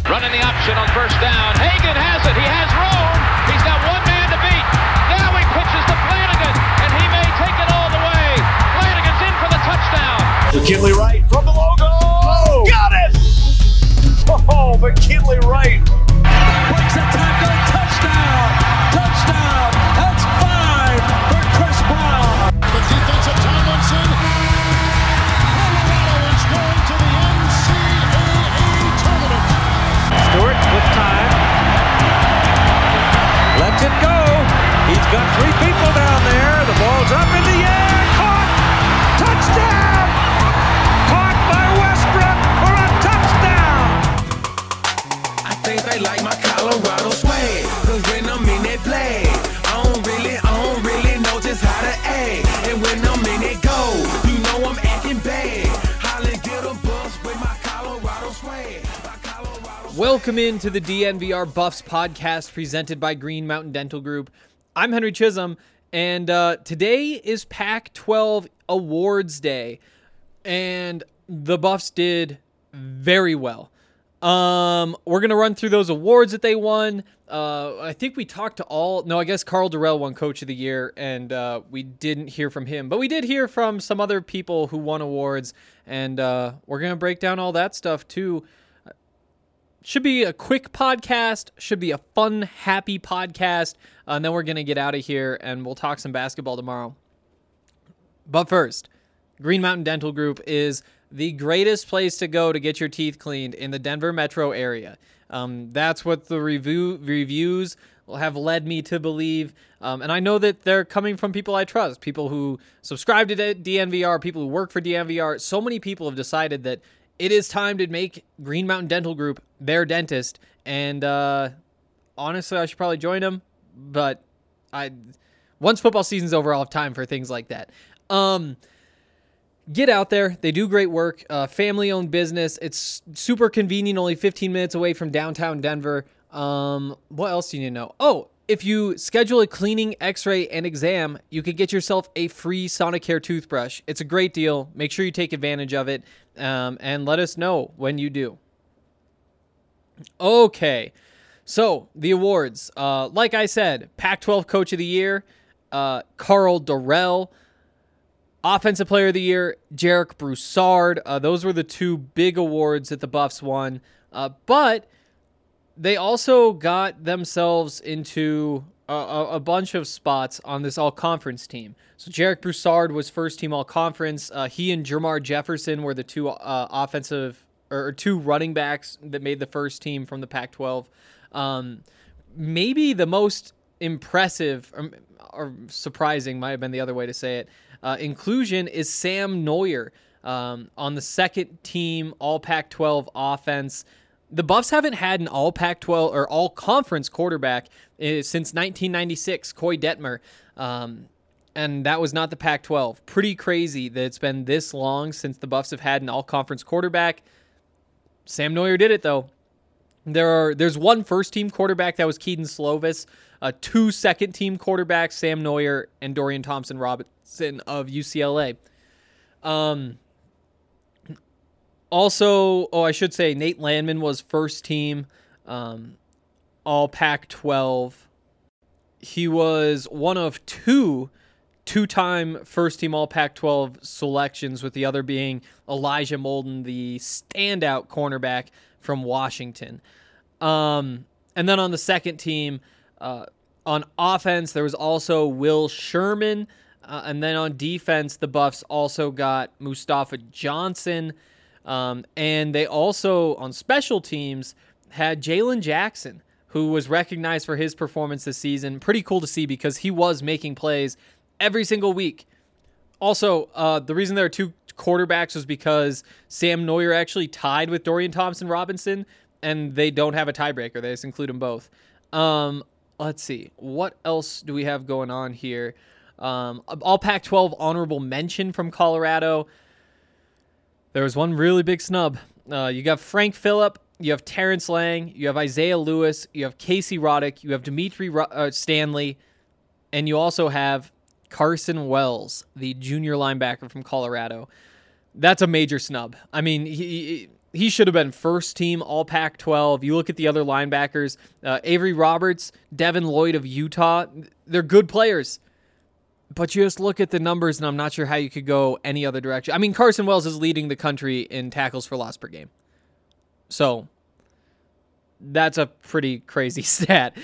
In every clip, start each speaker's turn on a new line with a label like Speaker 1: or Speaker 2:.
Speaker 1: Running the option on first down. Hagan has it. He has room. He's got one man to beat. Now he pitches to Flanagan, and he may take it all the way. Flanagan's in for the touchdown.
Speaker 2: McKinley Wright from the logo. Oh, got it! Oh, McKinley Wright.
Speaker 3: Breaks a tackle. Touchdown. Touchdown. That's 5 for Chris Brown.
Speaker 4: The defense of Tomlinson. Colorado is going to the NCAA tournament.
Speaker 3: Stewart with time. Lets it go. He's got 3 people down there. The ball's up in the air. Caught. Touchdown. Caught by Westbrook for a touchdown.
Speaker 5: I think they like my Colorado swag. Cause when I'm in that play, I don't really know just how to act. And when I'm in it go, you know I'm acting bad. Holland get a bus with my Colorado swag.
Speaker 6: Welcome into the DNVR Buffs podcast presented by Green Mountain Dental Group. I'm Henry Chisholm, and today is Pac-12 Awards Day, and the Buffs did very well. We're going to run through those awards that they won. I think we talked to I guess Carl Durrell won Coach of the Year, and we didn't hear from him. But we did hear from some other people who won awards, and we're going to break down all that stuff too. Should be a quick podcast, should be a fun, happy podcast, and then we're going to get out of here, and we'll talk some basketball tomorrow. But first, Green Mountain Dental Group is the greatest place to go to get your teeth cleaned in the Denver metro area. That's what the reviews have led me to believe. And I know that they're coming from people I trust, people who subscribe to DNVR, people who work for DNVR. So many people have decided that it is time to make Green Mountain Dental Group their dentist. And honestly, I should probably join them. But once football season's over, I'll have time for things like that. Get out there. They do great work. Family-owned business. It's super convenient, only 15 minutes away from downtown Denver. What else do you need to know? Oh, if you schedule a cleaning, x-ray, and exam, you could get yourself a free Sonicare toothbrush. It's a great deal. Make sure you take advantage of it, and let us know when you do. Okay, so the awards. Like I said, Pac-12 Coach of the Year, Carl Durrell. Offensive Player of the Year, Jarek Broussard. Those were the 2 big awards that the Buffs won. But they also got themselves into a bunch of spots on this all-conference team. So Jarek Broussard was first-team all-conference. He and Jermar Jefferson were the 2 offensive or 2 running backs that made the first team from the Pac-12. Maybe the most impressive or surprising, might have been the other way to say it, inclusion is Sam Noyer on the second team all Pac-12 offense. The Buffs haven't had an all Pac-12 or all conference quarterback since 1996, Coy Detmer. And that was not the Pac-12. Pretty crazy that it's been this long since the Buffs have had an all conference quarterback. Sam Noyer did it though. There's 1 first-team quarterback, that was Keaton Slovis. 2 second-team quarterbacks, Sam Noyer and Dorian Thompson-Robinson of UCLA. Also, I should say Nate Landman was first-team all Pac-12. He was one of 2-time first-team all Pac-12 selections, with the other being Elijah Molden, the standout cornerback from Washington. And then on the second team, on offense, there was also Will Sherman. And then on defense, the Buffs also got Mustafa Johnson. And they also, on special teams, had Jalen Jackson, who was recognized for his performance this season. Pretty cool to see because he was making plays every single week. Also, the reason there are 2 quarterbacks was because Sam Noyer actually tied with Dorian Thompson-Robinson, and they don't have a tiebreaker. They just include them both. Let's see. What else do we have going on here? All Pac-12 honorable mention from Colorado. There was one really big snub. You got Frank Phillip, you have Terrence Lang, you have Isaiah Lewis, you have Casey Roddick, you have Dimitri Stanley, and you also have Carson Wells, the junior linebacker from Colorado. That's a major snub. I mean, he should have been first team All Pac-12. You look at the other linebackers, Avery Roberts, Devin Lloyd of Utah. They're good players. But you just look at the numbers, and I'm not sure how you could go any other direction. I mean, Carson Wells is leading the country in tackles for loss per game. So that's a pretty crazy stat.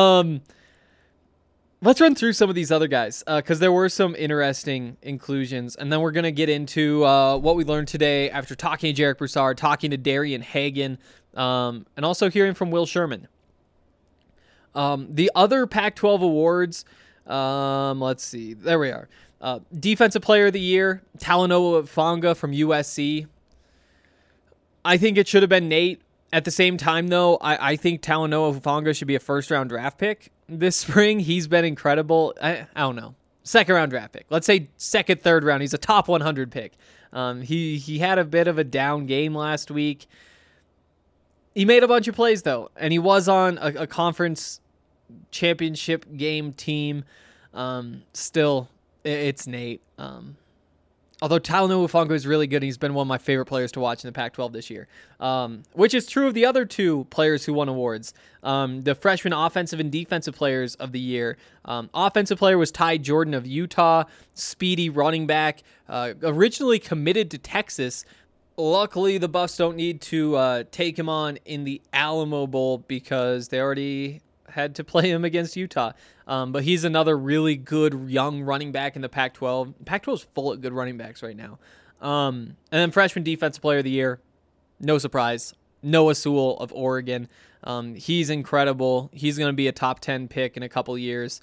Speaker 6: Let's run through some of these other guys because there were some interesting inclusions. And then we're going to get into what we learned today after talking to Jarek Broussard, talking to Darian Hagan, and also hearing from Will Sherman. The other Pac-12 awards, let's see. There we are. Defensive Player of the Year, Talanoa Hufanga from USC. I think it should have been Nate. At the same time, though, I think Talanoa Hufanga should be a first-round draft pick this spring. He's been incredible. I don't know. Second-round draft pick. Let's say second, third round. He's a top 100 pick. He had a bit of a down game last week. He made a bunch of plays, though, and he was on a conference championship game team. Still, it's Nate. Although Talanoa Hufanga is really good, he's been one of my favorite players to watch in the Pac-12 this year, which is true of the other two players who won awards. The freshman offensive and defensive players of the year. Offensive player was Ty Jordan of Utah, speedy running back, originally committed to Texas. Luckily, the Buffs don't need to take him on in the Alamo Bowl because they already had to play him against Utah. But he's another really good young running back in the Pac-12. Pac-12 is full of good running backs right now. And then freshman defensive player of the year, no surprise, Noah Sewell of Oregon. He's incredible. He's going to be a top 10 pick in a couple years.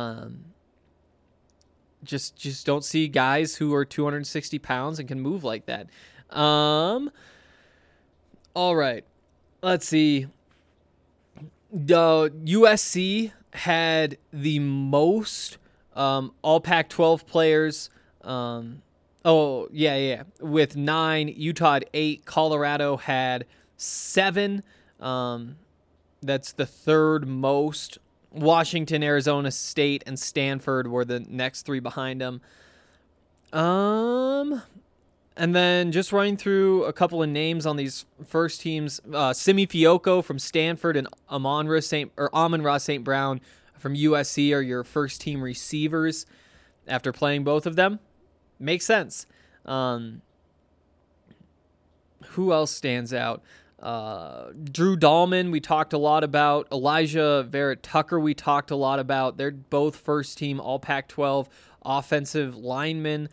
Speaker 6: Just don't see guys who are 260 pounds and can move like that. All right, let's see. The USC had the most all Pac-12 players. With 9. Utah had 8. Colorado had 7. That's the third most. Washington, Arizona State, and Stanford were the next 3 behind them. And then just running through a couple of names on these first teams, Simi Fioco from Stanford and Amon-Ra St. Brown from USC are your first team receivers after playing both of them. Makes sense. Who else stands out? Drew Dahlman, we talked a lot about. Elijah Vera-Tucker, we talked a lot about. They're both first team All Pac-12 offensive linemen.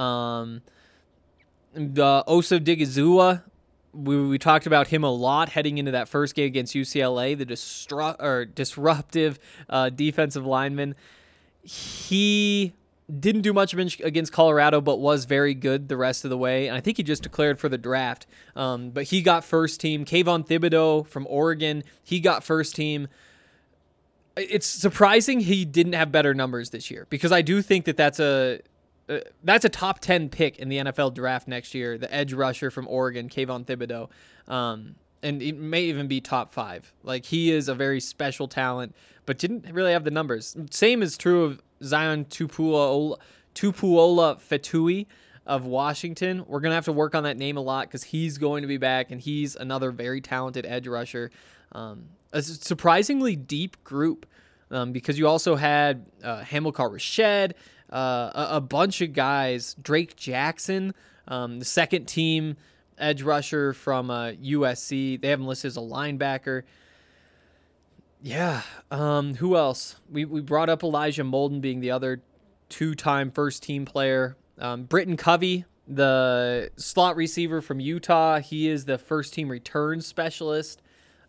Speaker 6: Osa Digizua, we talked about him a lot heading into that first game against UCLA, the disruptive defensive lineman. He didn't do much against Colorado, but was very good the rest of the way. And I think he just declared for the draft. But he got first team. Kayvon Thibodeau from Oregon, he got first team. It's surprising he didn't have better numbers this year because I do think that's a top 10 pick in the NFL draft next year, the edge rusher from Oregon, Kayvon Thibodeau. And it may even be top 5. Like, he is a very special talent, but didn't really have the numbers. Same is true of Zion Tupuola Fetui of Washington. We're going to have to work on that name a lot because he's going to be back, and he's another very talented edge rusher. A surprisingly deep group because you also had Hamilcar Rashed, a bunch of guys. Drake Jackson, the second team edge rusher from USC. They have him listed as a linebacker. Yeah. Who else? We brought up Elijah Molden being the other 2-time first team player. Britton Covey, the slot receiver from Utah. He is the first team return specialist.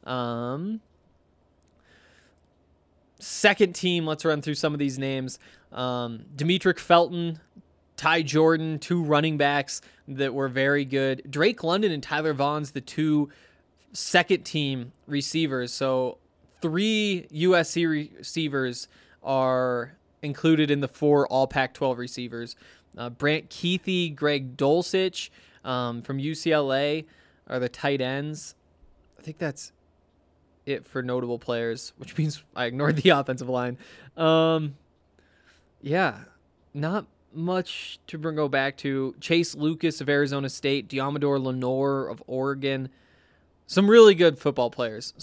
Speaker 6: Second team, let's run through some of these names. Demetric Felton, Ty Jordan, 2 running backs that were very good. Drake London and Tyler Vaughn's the 2 second team receivers. So 3 USC receivers are included in the 4 All Pac-12 receivers. Brant Keithy, Greg Dulcich from UCLA are the tight ends. I think that's it for notable players, which means I ignored the offensive line. Yeah, not much to go back to. Chase Lucas of Arizona State, Diamador Lenore of Oregon. Some really good football players.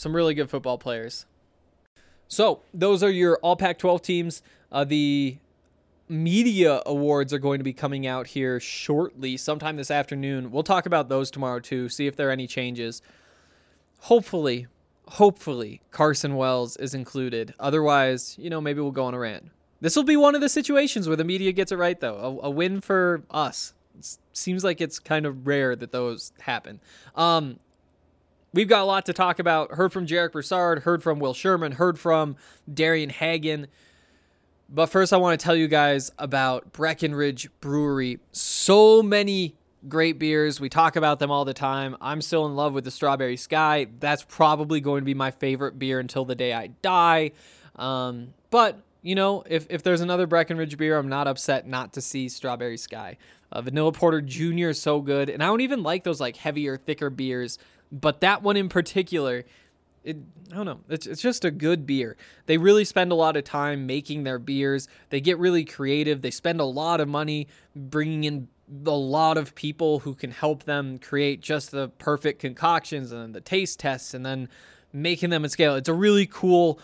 Speaker 6: So those are your all Pac-12 teams. The media awards are going to be coming out here shortly, sometime this afternoon. We'll talk about those tomorrow too, see if there are any changes. Hopefully Carson Wells is included. Otherwise, maybe we'll go on a rant. This will be one of the situations where the media gets it right, though. A win for us. It seems like it's kind of rare that those happen. We've got a lot to talk about. Heard from Jarek Broussard, heard from Will Sherman, heard from Darian Hagan. But first, I want to tell you guys about Breckenridge Brewery. So many great beers. We talk about them all the time. I'm still in love with the Strawberry Sky. That's probably going to be my favorite beer until the day I die. But, if there's another Breckenridge beer, I'm not upset not to see Strawberry Sky. Vanilla Porter Jr. is so good. And I don't even like those heavier, thicker beers. But that one in particular, I don't know. It's just a good beer. They really spend a lot of time making their beers. They get really creative. They spend a lot of money bringing in a lot of people who can help them create just the perfect concoctions and the taste tests and then making them at scale. It's a really cool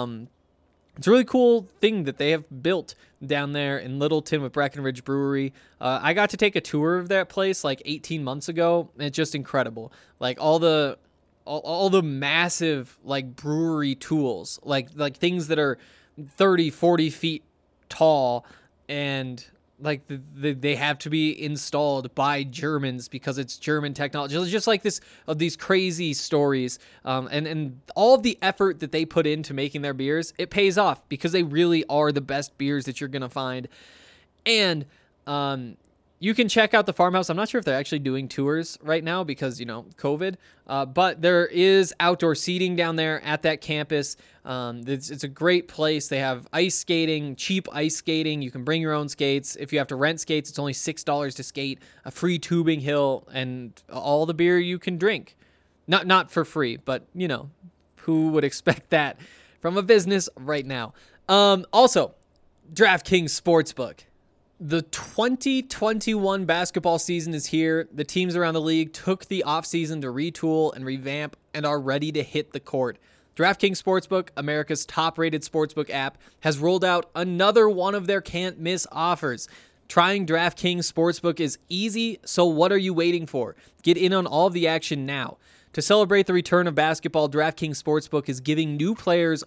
Speaker 6: thing that they have built down there in Littleton with Breckenridge Brewery. I got to take a tour of that place 18 months ago, and it's just incredible. All the massive brewery tools, like things that are 30, 40 feet tall, and they have to be installed by Germans because it's German technology. It's just these crazy stories, and all of the effort that they put into making their beers, it pays off because they really are the best beers that you're gonna find. And you can check out the farmhouse. I'm not sure if they're actually doing tours right now because, COVID. But there is outdoor seating down there at that campus. It's a great place. They have ice skating, cheap ice skating. You can bring your own skates. If you have to rent skates, it's only $6 to skate, a free tubing hill, and all the beer you can drink. Not for free, but, who would expect that from a business right now? Also, DraftKings Sportsbook. The 2021 basketball season is here. The teams around the league took the offseason to retool and revamp and are ready to hit the court. DraftKings Sportsbook, America's top-rated sportsbook app, has rolled out another one of their can't-miss offers. Trying DraftKings Sportsbook is easy, so what are you waiting for? Get in on all of the action now. To celebrate the return of basketball, DraftKings Sportsbook is giving new players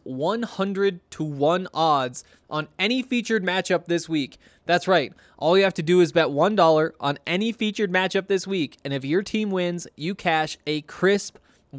Speaker 6: 100-1 odds on any featured matchup this week. That's right. All you have to do is bet $1 on any featured matchup this week, and if your team wins, you cash a crisp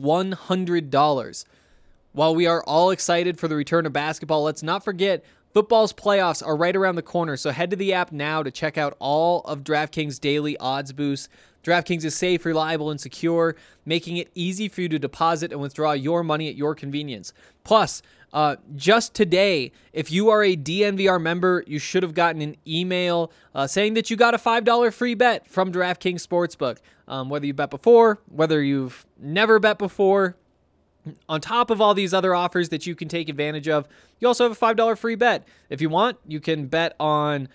Speaker 6: $100. While we are all excited for the return of basketball, let's not forget football's playoffs are right around the corner, so head to the app now to check out all of DraftKings' daily odds boosts. DraftKings is safe, reliable, and secure, making it easy for you to deposit and withdraw your money at your convenience. Plus, just today, if you are a DNVR member, you should have gotten an email saying that you got a $5 free bet from DraftKings Sportsbook. Whether you bet before, whether you've never bet before, on top of all these other offers that you can take advantage of, you also have a $5 free bet. If you want, you can bet on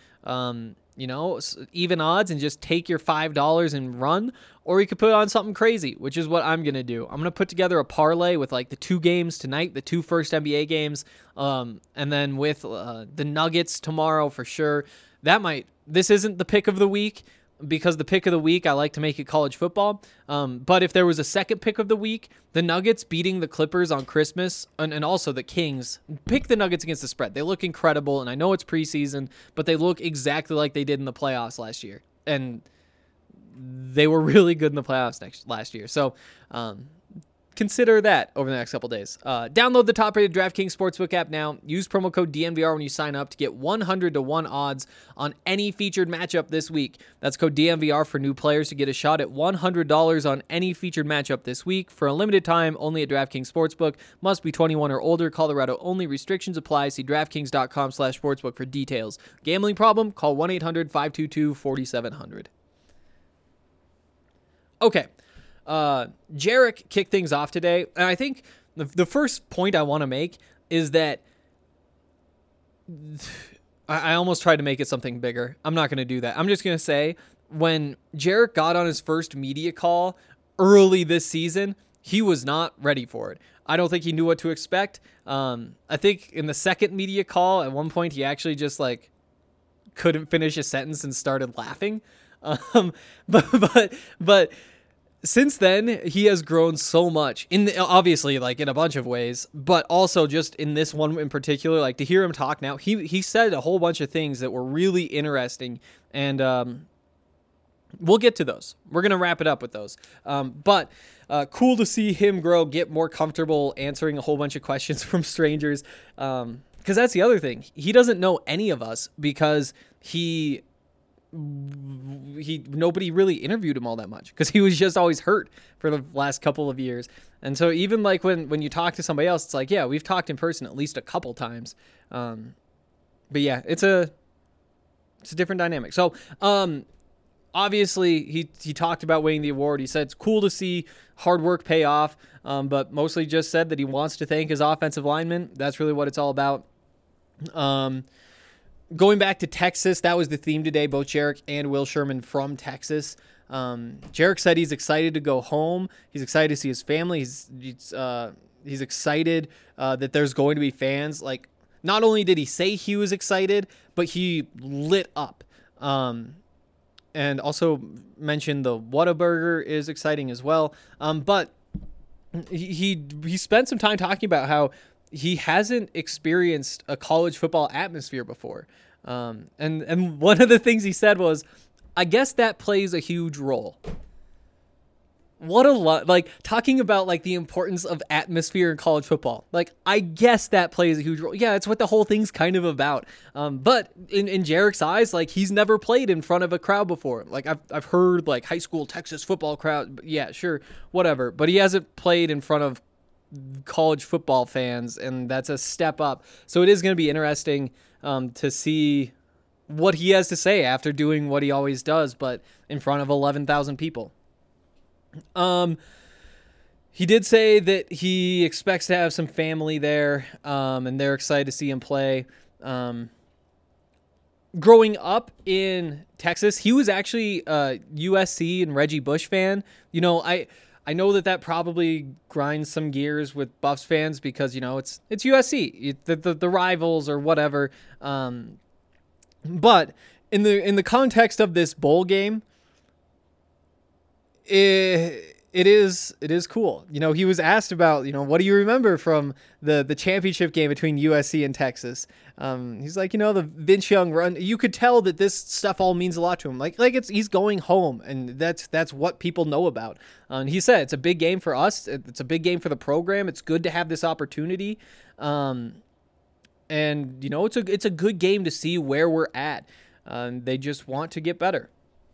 Speaker 6: even odds and just take your $5 and run, or you could put on something crazy, which is what I'm going to do. I'm going to put together a parlay with the 2 games tonight, the 2 first NBA games, and then with the Nuggets tomorrow for sure. This isn't the pick of the week, because the pick of the week, I like to make it college football. But if there was a second pick of the week, the Nuggets beating the Clippers on Christmas, and also the Kings, pick the Nuggets against the spread. They look incredible, and I know it's preseason, but they look exactly like they did in the playoffs last year. And they were really good in the playoffs last year. So consider that over the next couple days. Download the top-rated DraftKings Sportsbook app now. Use promo code DNVR when you sign up to get 100-1 odds on any featured matchup this week. That's code DNVR for new players to get a shot at $100 on any featured matchup this week. For a limited time, only at DraftKings Sportsbook. Must be 21 or older. Colorado only. Restrictions apply. See DraftKings.com/sportsbook for details. Gambling problem? Call 1-800-522-4700. Okay. Jarek kicked things off today, and I think the first point I want to make is that I almost tried to make it something bigger. I'm not going to do that. I'm just going to say when Jarek got on his first media call early this season, he was not ready for it. I don't think he knew what to expect. I think in the second media call, at one point, he actually just like couldn't finish a sentence and started laughing. But since then, he has grown so much obviously like in a bunch of ways, but also just in this one in particular, like to hear him talk now, he said a whole bunch of things that were really interesting, and we'll get to those. We're going to wrap it up with those. But cool to see him grow, get more comfortable answering a whole bunch of questions from strangers. Because that's the other thing. He doesn't know any of us because nobody really interviewed him all that much because he was just always hurt for the last couple of years. And so even like when you talk to somebody else, it's like, yeah, we've talked in person at least a couple times. But yeah, it's a different dynamic. So, obviously, he talked about winning the award. He said it's cool to see hard work pay off, but mostly just said that he wants to thank his offensive linemen. That's really what it's all about. Going back to Texas, that was the theme today, both Jarek and Will Sherman from Texas. Jarek said he's excited to go home. He's excited to see his family. He's excited that there's going to be fans. Like, not only did he say he was excited, but he lit up. And also mentioned the Whataburger is exciting as well. But he spent some time talking about how he hasn't experienced a college football atmosphere before. And one of the things he said was, I guess that plays a huge role. What a lot, like talking about like the importance of atmosphere in college football. Like, I guess that plays a huge role. Yeah, it's what the whole thing's kind of about. But in Jarek's eyes, like he's never played in front of a crowd before. Like I've heard like high school Texas football crowd. Yeah, sure, whatever. But he hasn't played in front of college football fans, and that's a step up. So it is going to be interesting to see what he has to say after doing what he always does, but in front of 11,000 people. He did say that he expects to have some family there, and they're excited to see him play. Growing up in Texas, he was actually a USC and Reggie Bush fan. You know, I know that probably grinds some gears with Buffs fans because, you know, it's USC, the rivals or whatever. But in the context of this bowl game, it is cool. You know, he was asked about, you know, what do you remember from the championship game between USC and Texas? He's like, you know, the Vince Young run. You could tell that this stuff all means a lot to him. Like he's going home, and that's what people know about. And he said it's a big game for us. It's a big game for the program. It's good to have this opportunity. And you know, it's a good game to see where we're at. They just want to get better.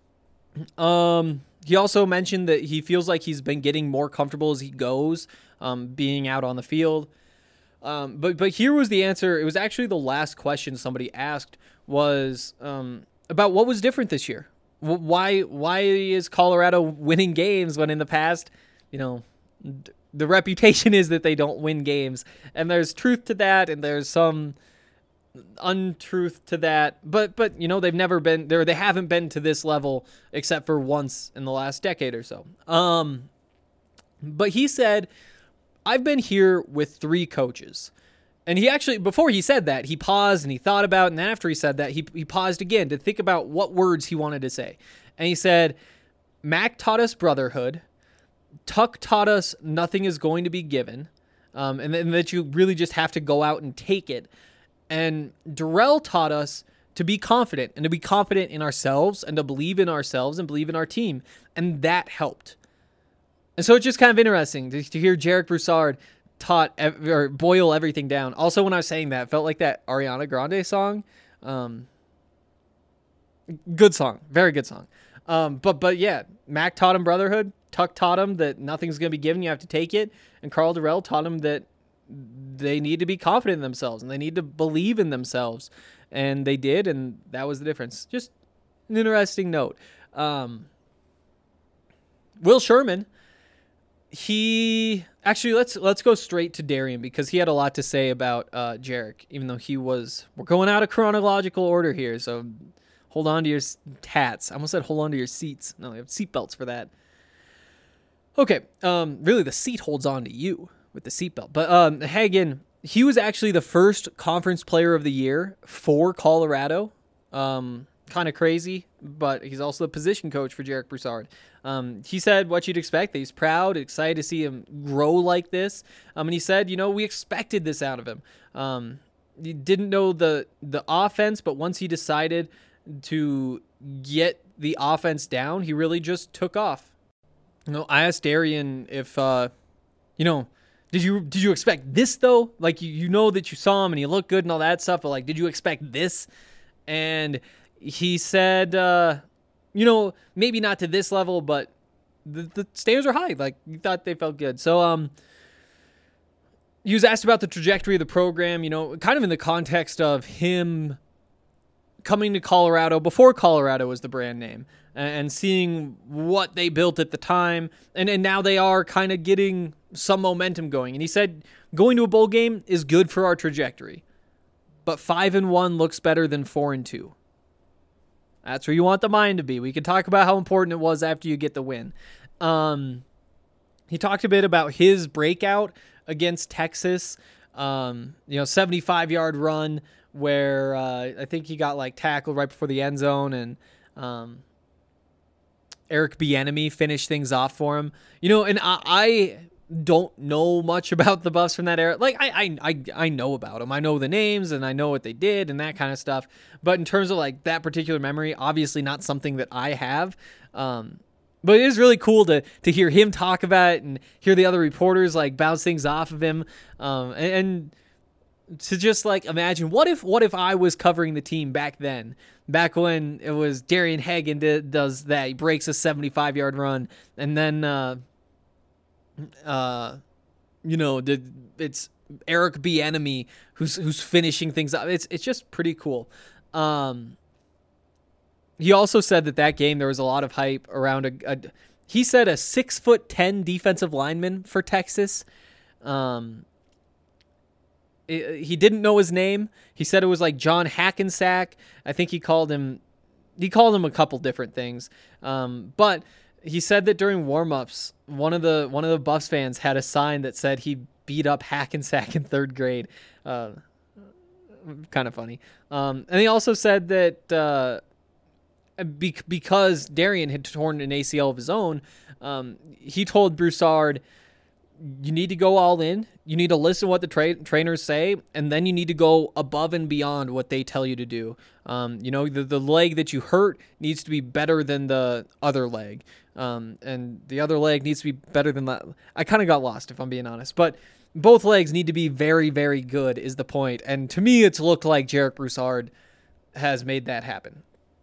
Speaker 6: He also mentioned that he feels like he's been getting more comfortable as he goes, being out on the field. But here was the answer. It was actually the last question somebody asked was about what was different this year. Why is Colorado winning games when in the past, you know, the reputation is that they don't win games, and there's truth to that, and there's some untruth to that, but you know, they've never been there. They haven't been to this level except for once in the last decade or so. But he said, I've been here with 3 coaches. And he actually, before he said that, he paused and he thought about it. And then after he said that, he paused again to think about what words he wanted to say. And he said, Mac taught us brotherhood. Tuck taught us nothing is going to be given. And that you really just have to go out and take it. And Darrell taught us to be confident, and to be confident in ourselves, and to believe in ourselves and believe in our team. And that helped. And so it's just kind of interesting to hear Jarek Broussard boil everything down. Also, when I was saying that, it felt like that Ariana Grande song. Good song. Very good song. But yeah, Mac taught him brotherhood. Tuck taught him that nothing's going to be given. You have to take it. And Carl Darrell taught him that they need to be confident in themselves and they need to believe in themselves. And they did, and that was the difference. Just an interesting note. Will Sherman, he actually let's go straight to Darian because he had a lot to say about Jarek, even though we're going out of chronological order here, so hold on to your hats. I almost said hold on to your seats. No, you have seatbelts for that. Okay, really the seat holds on to you with the seatbelt. But Hagen, he was actually the first conference player of the year for Colorado. Kind of crazy, but he's also the position coach for Jarek Broussard. He said what you'd expect, that he's proud, excited to see him grow like this. And he said, we expected this out of him. He didn't know the offense, but once he decided to get the offense down, he really just took off. I asked Darian if, did you expect this though? Like, you know that you saw him and he looked good and all that stuff, but like, did you expect this? And he said, maybe not to this level, but the standards are high. Like, he thought they felt good. So, he was asked about the trajectory of the program, kind of in the context of him coming to Colorado before Colorado was the brand name and seeing what they built at the time. And now they are kind of getting some momentum going. And he said, going to a bowl game is good for our trajectory, but 5-1 looks better than 4-2. That's where you want the mind to be. We can talk about how important it was after you get the win. He talked a bit about his breakout against Texas, 75-yard run where I think he got tackled right before the end zone, and Eric Bieniemy finished things off for him. And I don't know much about the Buffs from that era. I know about them. I know the names and I know what they did and that kind of stuff. But in terms of that particular memory, obviously not something that I have. But it is really cool to hear him talk about it and hear the other reporters bounce things off of him. And to just imagine what if I was covering the team back then, back when it was Darian Hagen does that. He breaks a 75-yard run and then, it's Eric Bieniemy who's finishing things up. It's just pretty cool. He also said that game there was a lot of hype around he said a 6'10" defensive lineman for Texas. He didn't know his name. He said it was John Hackensack. I think he called him a couple different things. But he said that during warm-ups, one of the Buffs fans had a sign that said he beat up Hackensack in 3rd grade. Kind of funny. And he also said that because Darian had torn an ACL of his own, he told Broussard, you need to go all in. You need to listen to what the trainers say, and then you need to go above and beyond what they tell you to do. The leg that you hurt needs to be better than the other leg. And the other leg needs to be better than that. I kind of got lost, if I'm being honest. But both legs need to be very, very good is the point. And to me, it's looked like Jarek Broussard has made that happen.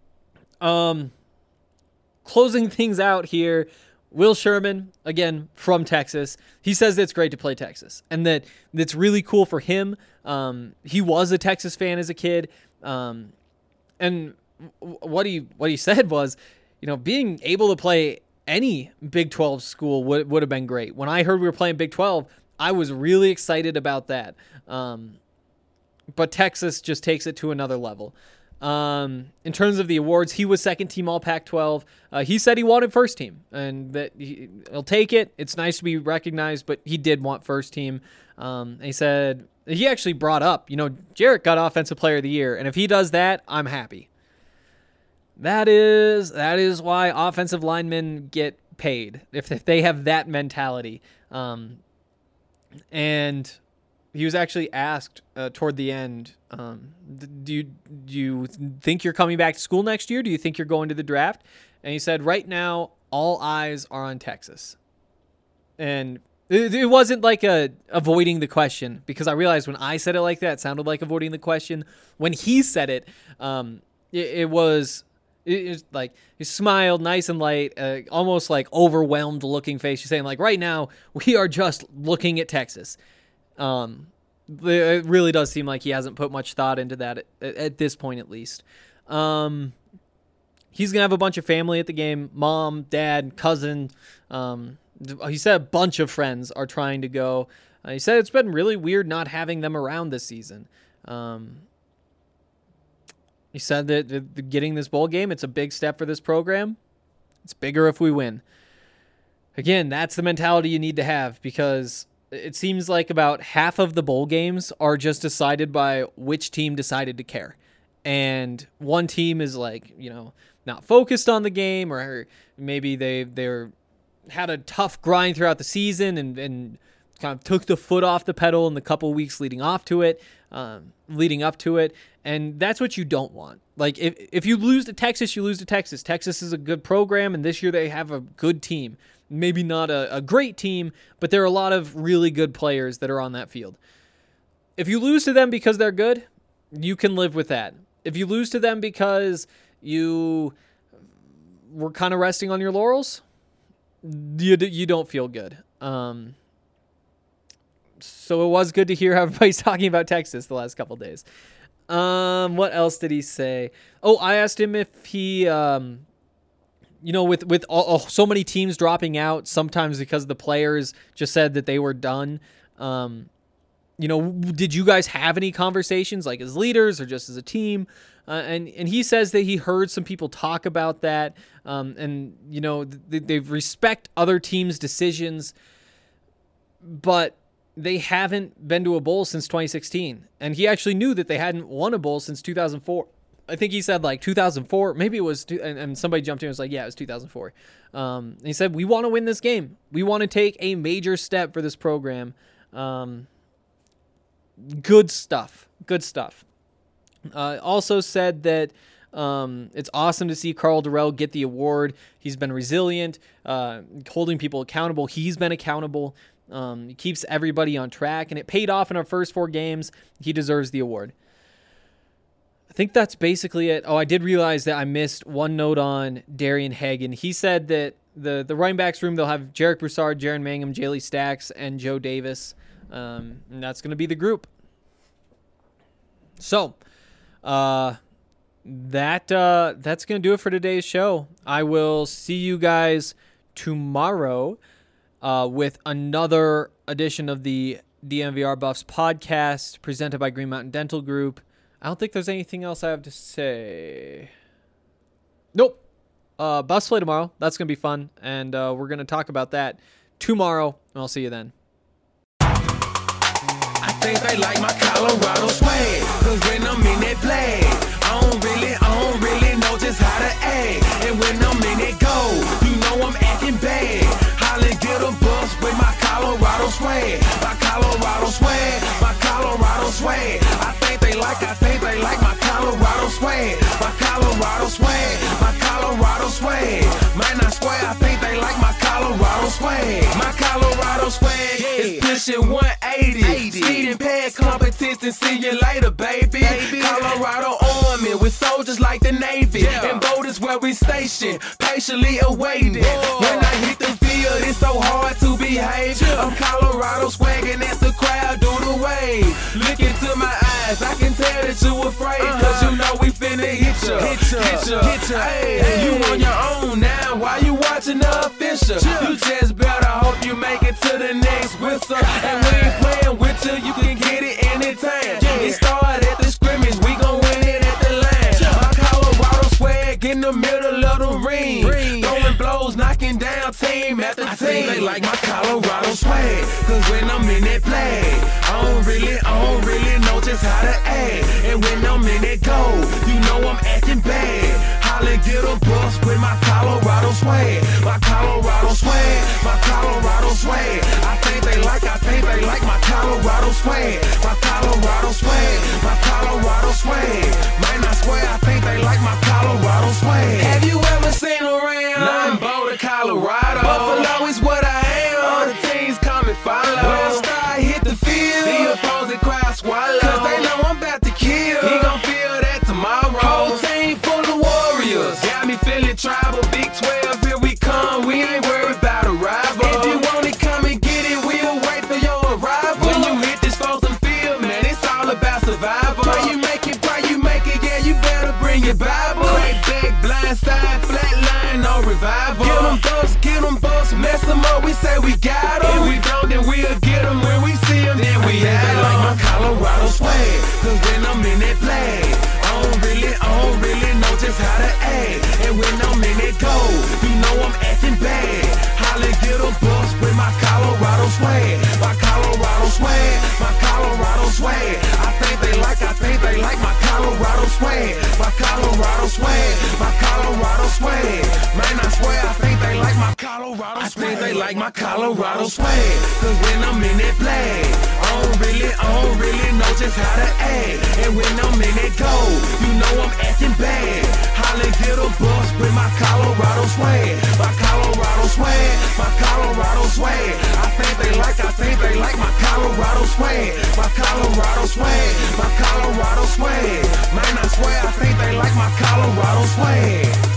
Speaker 6: Closing things out here, Will Sherman, again, from Texas, he says that it's great to play Texas and that it's really cool for him. He was a Texas fan as a kid. And what he said was, being able to play any Big 12 school would have been great. When I heard we were playing Big 12, I was really excited about that. But Texas just takes it to another level. In terms of the awards, he was 2nd team All Pac-12. He said he wanted 1st team and that he'll take it. It's nice to be recognized, but he did want 1st team. And he said he actually brought up, Jarek got Offensive Player of the Year, and if he does that, I'm happy. That is why offensive linemen get paid if they have that mentality. And he was actually asked toward the end, do you think you're coming back to school next year? Do you think you're going to the draft? And he said, right now, all eyes are on Texas. And it wasn't avoiding the question, because I realized when I said it like that, it sounded like avoiding the question. When he said it, it was he smiled nice and light, almost overwhelmed looking face. He's saying right now, we are just looking at Texas. It really does seem like he hasn't put much thought into that at this point, at least. He's going to have a bunch of family at the game, mom, dad, cousin, He said a bunch of friends are trying to go. He said it's been really weird not having them around this season. He said that getting this bowl game, it's a big step for this program. It's bigger if we win. Again, that's the mentality you need to have, because it seems like about half of the bowl games are just decided by which team decided to care. And one team is like, not focused on the game, or maybe they're had a tough grind throughout the season and kind of took the foot off the pedal in the couple weeks leading up to it. And that's what you don't want. Like, if you lose to Texas, you lose to Texas. Texas is a good program, and this year they have a good team. Maybe not a great team, but there are a lot of really good players that are on that field. If you lose to them because they're good, you can live with that. If you lose to them because you were kind of resting on your laurels, you don't feel good. So it was good to hear how everybody's talking about Texas the last couple days. What else did he say? Oh, I asked him if he, with so many teams dropping out, sometimes because the players just said that they were done. Did you guys have any conversations, like as leaders or just as a team? And he says that he heard some people talk about that. They respect other teams' decisions, but they haven't been to a bowl since 2016. And he actually knew that they hadn't won a bowl since 2004. I think he said like 2004. Maybe it was, and somebody jumped in and was like, yeah, it was 2004. And he said, we want to win this game. We want to take a major step for this program. Good stuff. Also said that it's awesome to see Karl Dorrell get the award. He's been resilient, holding people accountable. He's been accountable. He keeps everybody on track, and it paid off in our first 4 games. He deserves the award. I think that's basically it. Oh, I did realize that I missed one note on Darian Hagan. He said that the running backs room, they'll have Jarek Broussard, Jaron Mangum, Jaley Stacks, and Joe Davis. And that's going to be the group. So, that's going to do it for today's show. I will see you guys tomorrow with another edition of the DNVR Buffs podcast presented by Green Mountain Dental Group. I don't think there's anything else I have to say. Nope. Buffs play tomorrow. That's going to be fun, and we're going to talk about that tomorrow, and I'll see you then.
Speaker 5: I think they like my Colorado swag, cause when I'm in that play, I don't really know just how to act. And when I'm in that go, you know I'm acting bad. Holla, get a bus with my Colorado swag. My Colorado swag, my Colorado swag. I think they like my Colorado swag. My Colorado swag, my Colorado swag. Man, I swear, I think they like my Colorado swag. My Colorado swag is pushing 180. Speeding past competition, see you later, baby. Colorado Army with soldiers like the Navy. And boat is where we station, patiently awaiting. When I hit the field, it's so hard to behave. I'm Colorado swagging as the crowd do the wave. Look into my eyes, I can tell that you afraid. Cause you know we finna hit ya. Hey, you on your own now, why you watching the official? You just better hope you make it to the next whistle. And we ain't playing with you, you can get it anytime. It started at the scrimmage, we gon' win it at the line. My Colorado swag in the middle of the ring. Throwing blows, knocking down team after team. I think they like my Colorado swag, cause when I'm in that play, I don't really know just how to act. And when I'm in that go, you know I'm acting bad. Holla, get a bus with my Colorado swag. My Colorado swag, my Colorado swag. I think they like my Colorado swag. My Colorado swag, my Colorado swag. Man, I swear, I think they like my Colorado swag. Have you ever seen around? Nothing but Colorado. Buffalo is what I am. All the teams come and follow. When I start hit the field, the opposing crowd swallow. Cause they know I'm about to kill. He gon' feel that tomorrow. Whole team full of warriors. Got me feeling tribal. Big 12, here we come. We ain't worried about a rival. If you want it, come and get it. We'll wait for your arrival. When you hit this frozen field, man, it's all about survival. Pray you make it, yeah, you better bring your Bible. Crack back, blind side, flat line, no revival. Get them bucks, mess them up, we say we got them. If we don't, then we'll get them when we see them. Then we have them. They like my Colorado swag, cause when I'm in that flag, I don't really know just how to act. And when I'm in that gold, you know I'm acting bad. Holly get a bus with my Colorado swag. My Colorado swag, my Colorado swag. I think they like my Colorado swag. My Colorado swag, my Colorado swag. Man, I swear I think they like my Colorado swag. I think they like my Colorado swag, cause when I'm in that flag, I don't really know just how to act. And when I'm in that gold, you know I'm acting bad. Holly get a bus with my Colorado swag. My Colorado swag, my Colorado swag. I think they like my Colorado swag. My Colorado swag, my Colorado swag. Man, I swear I think they like my Colorado swag.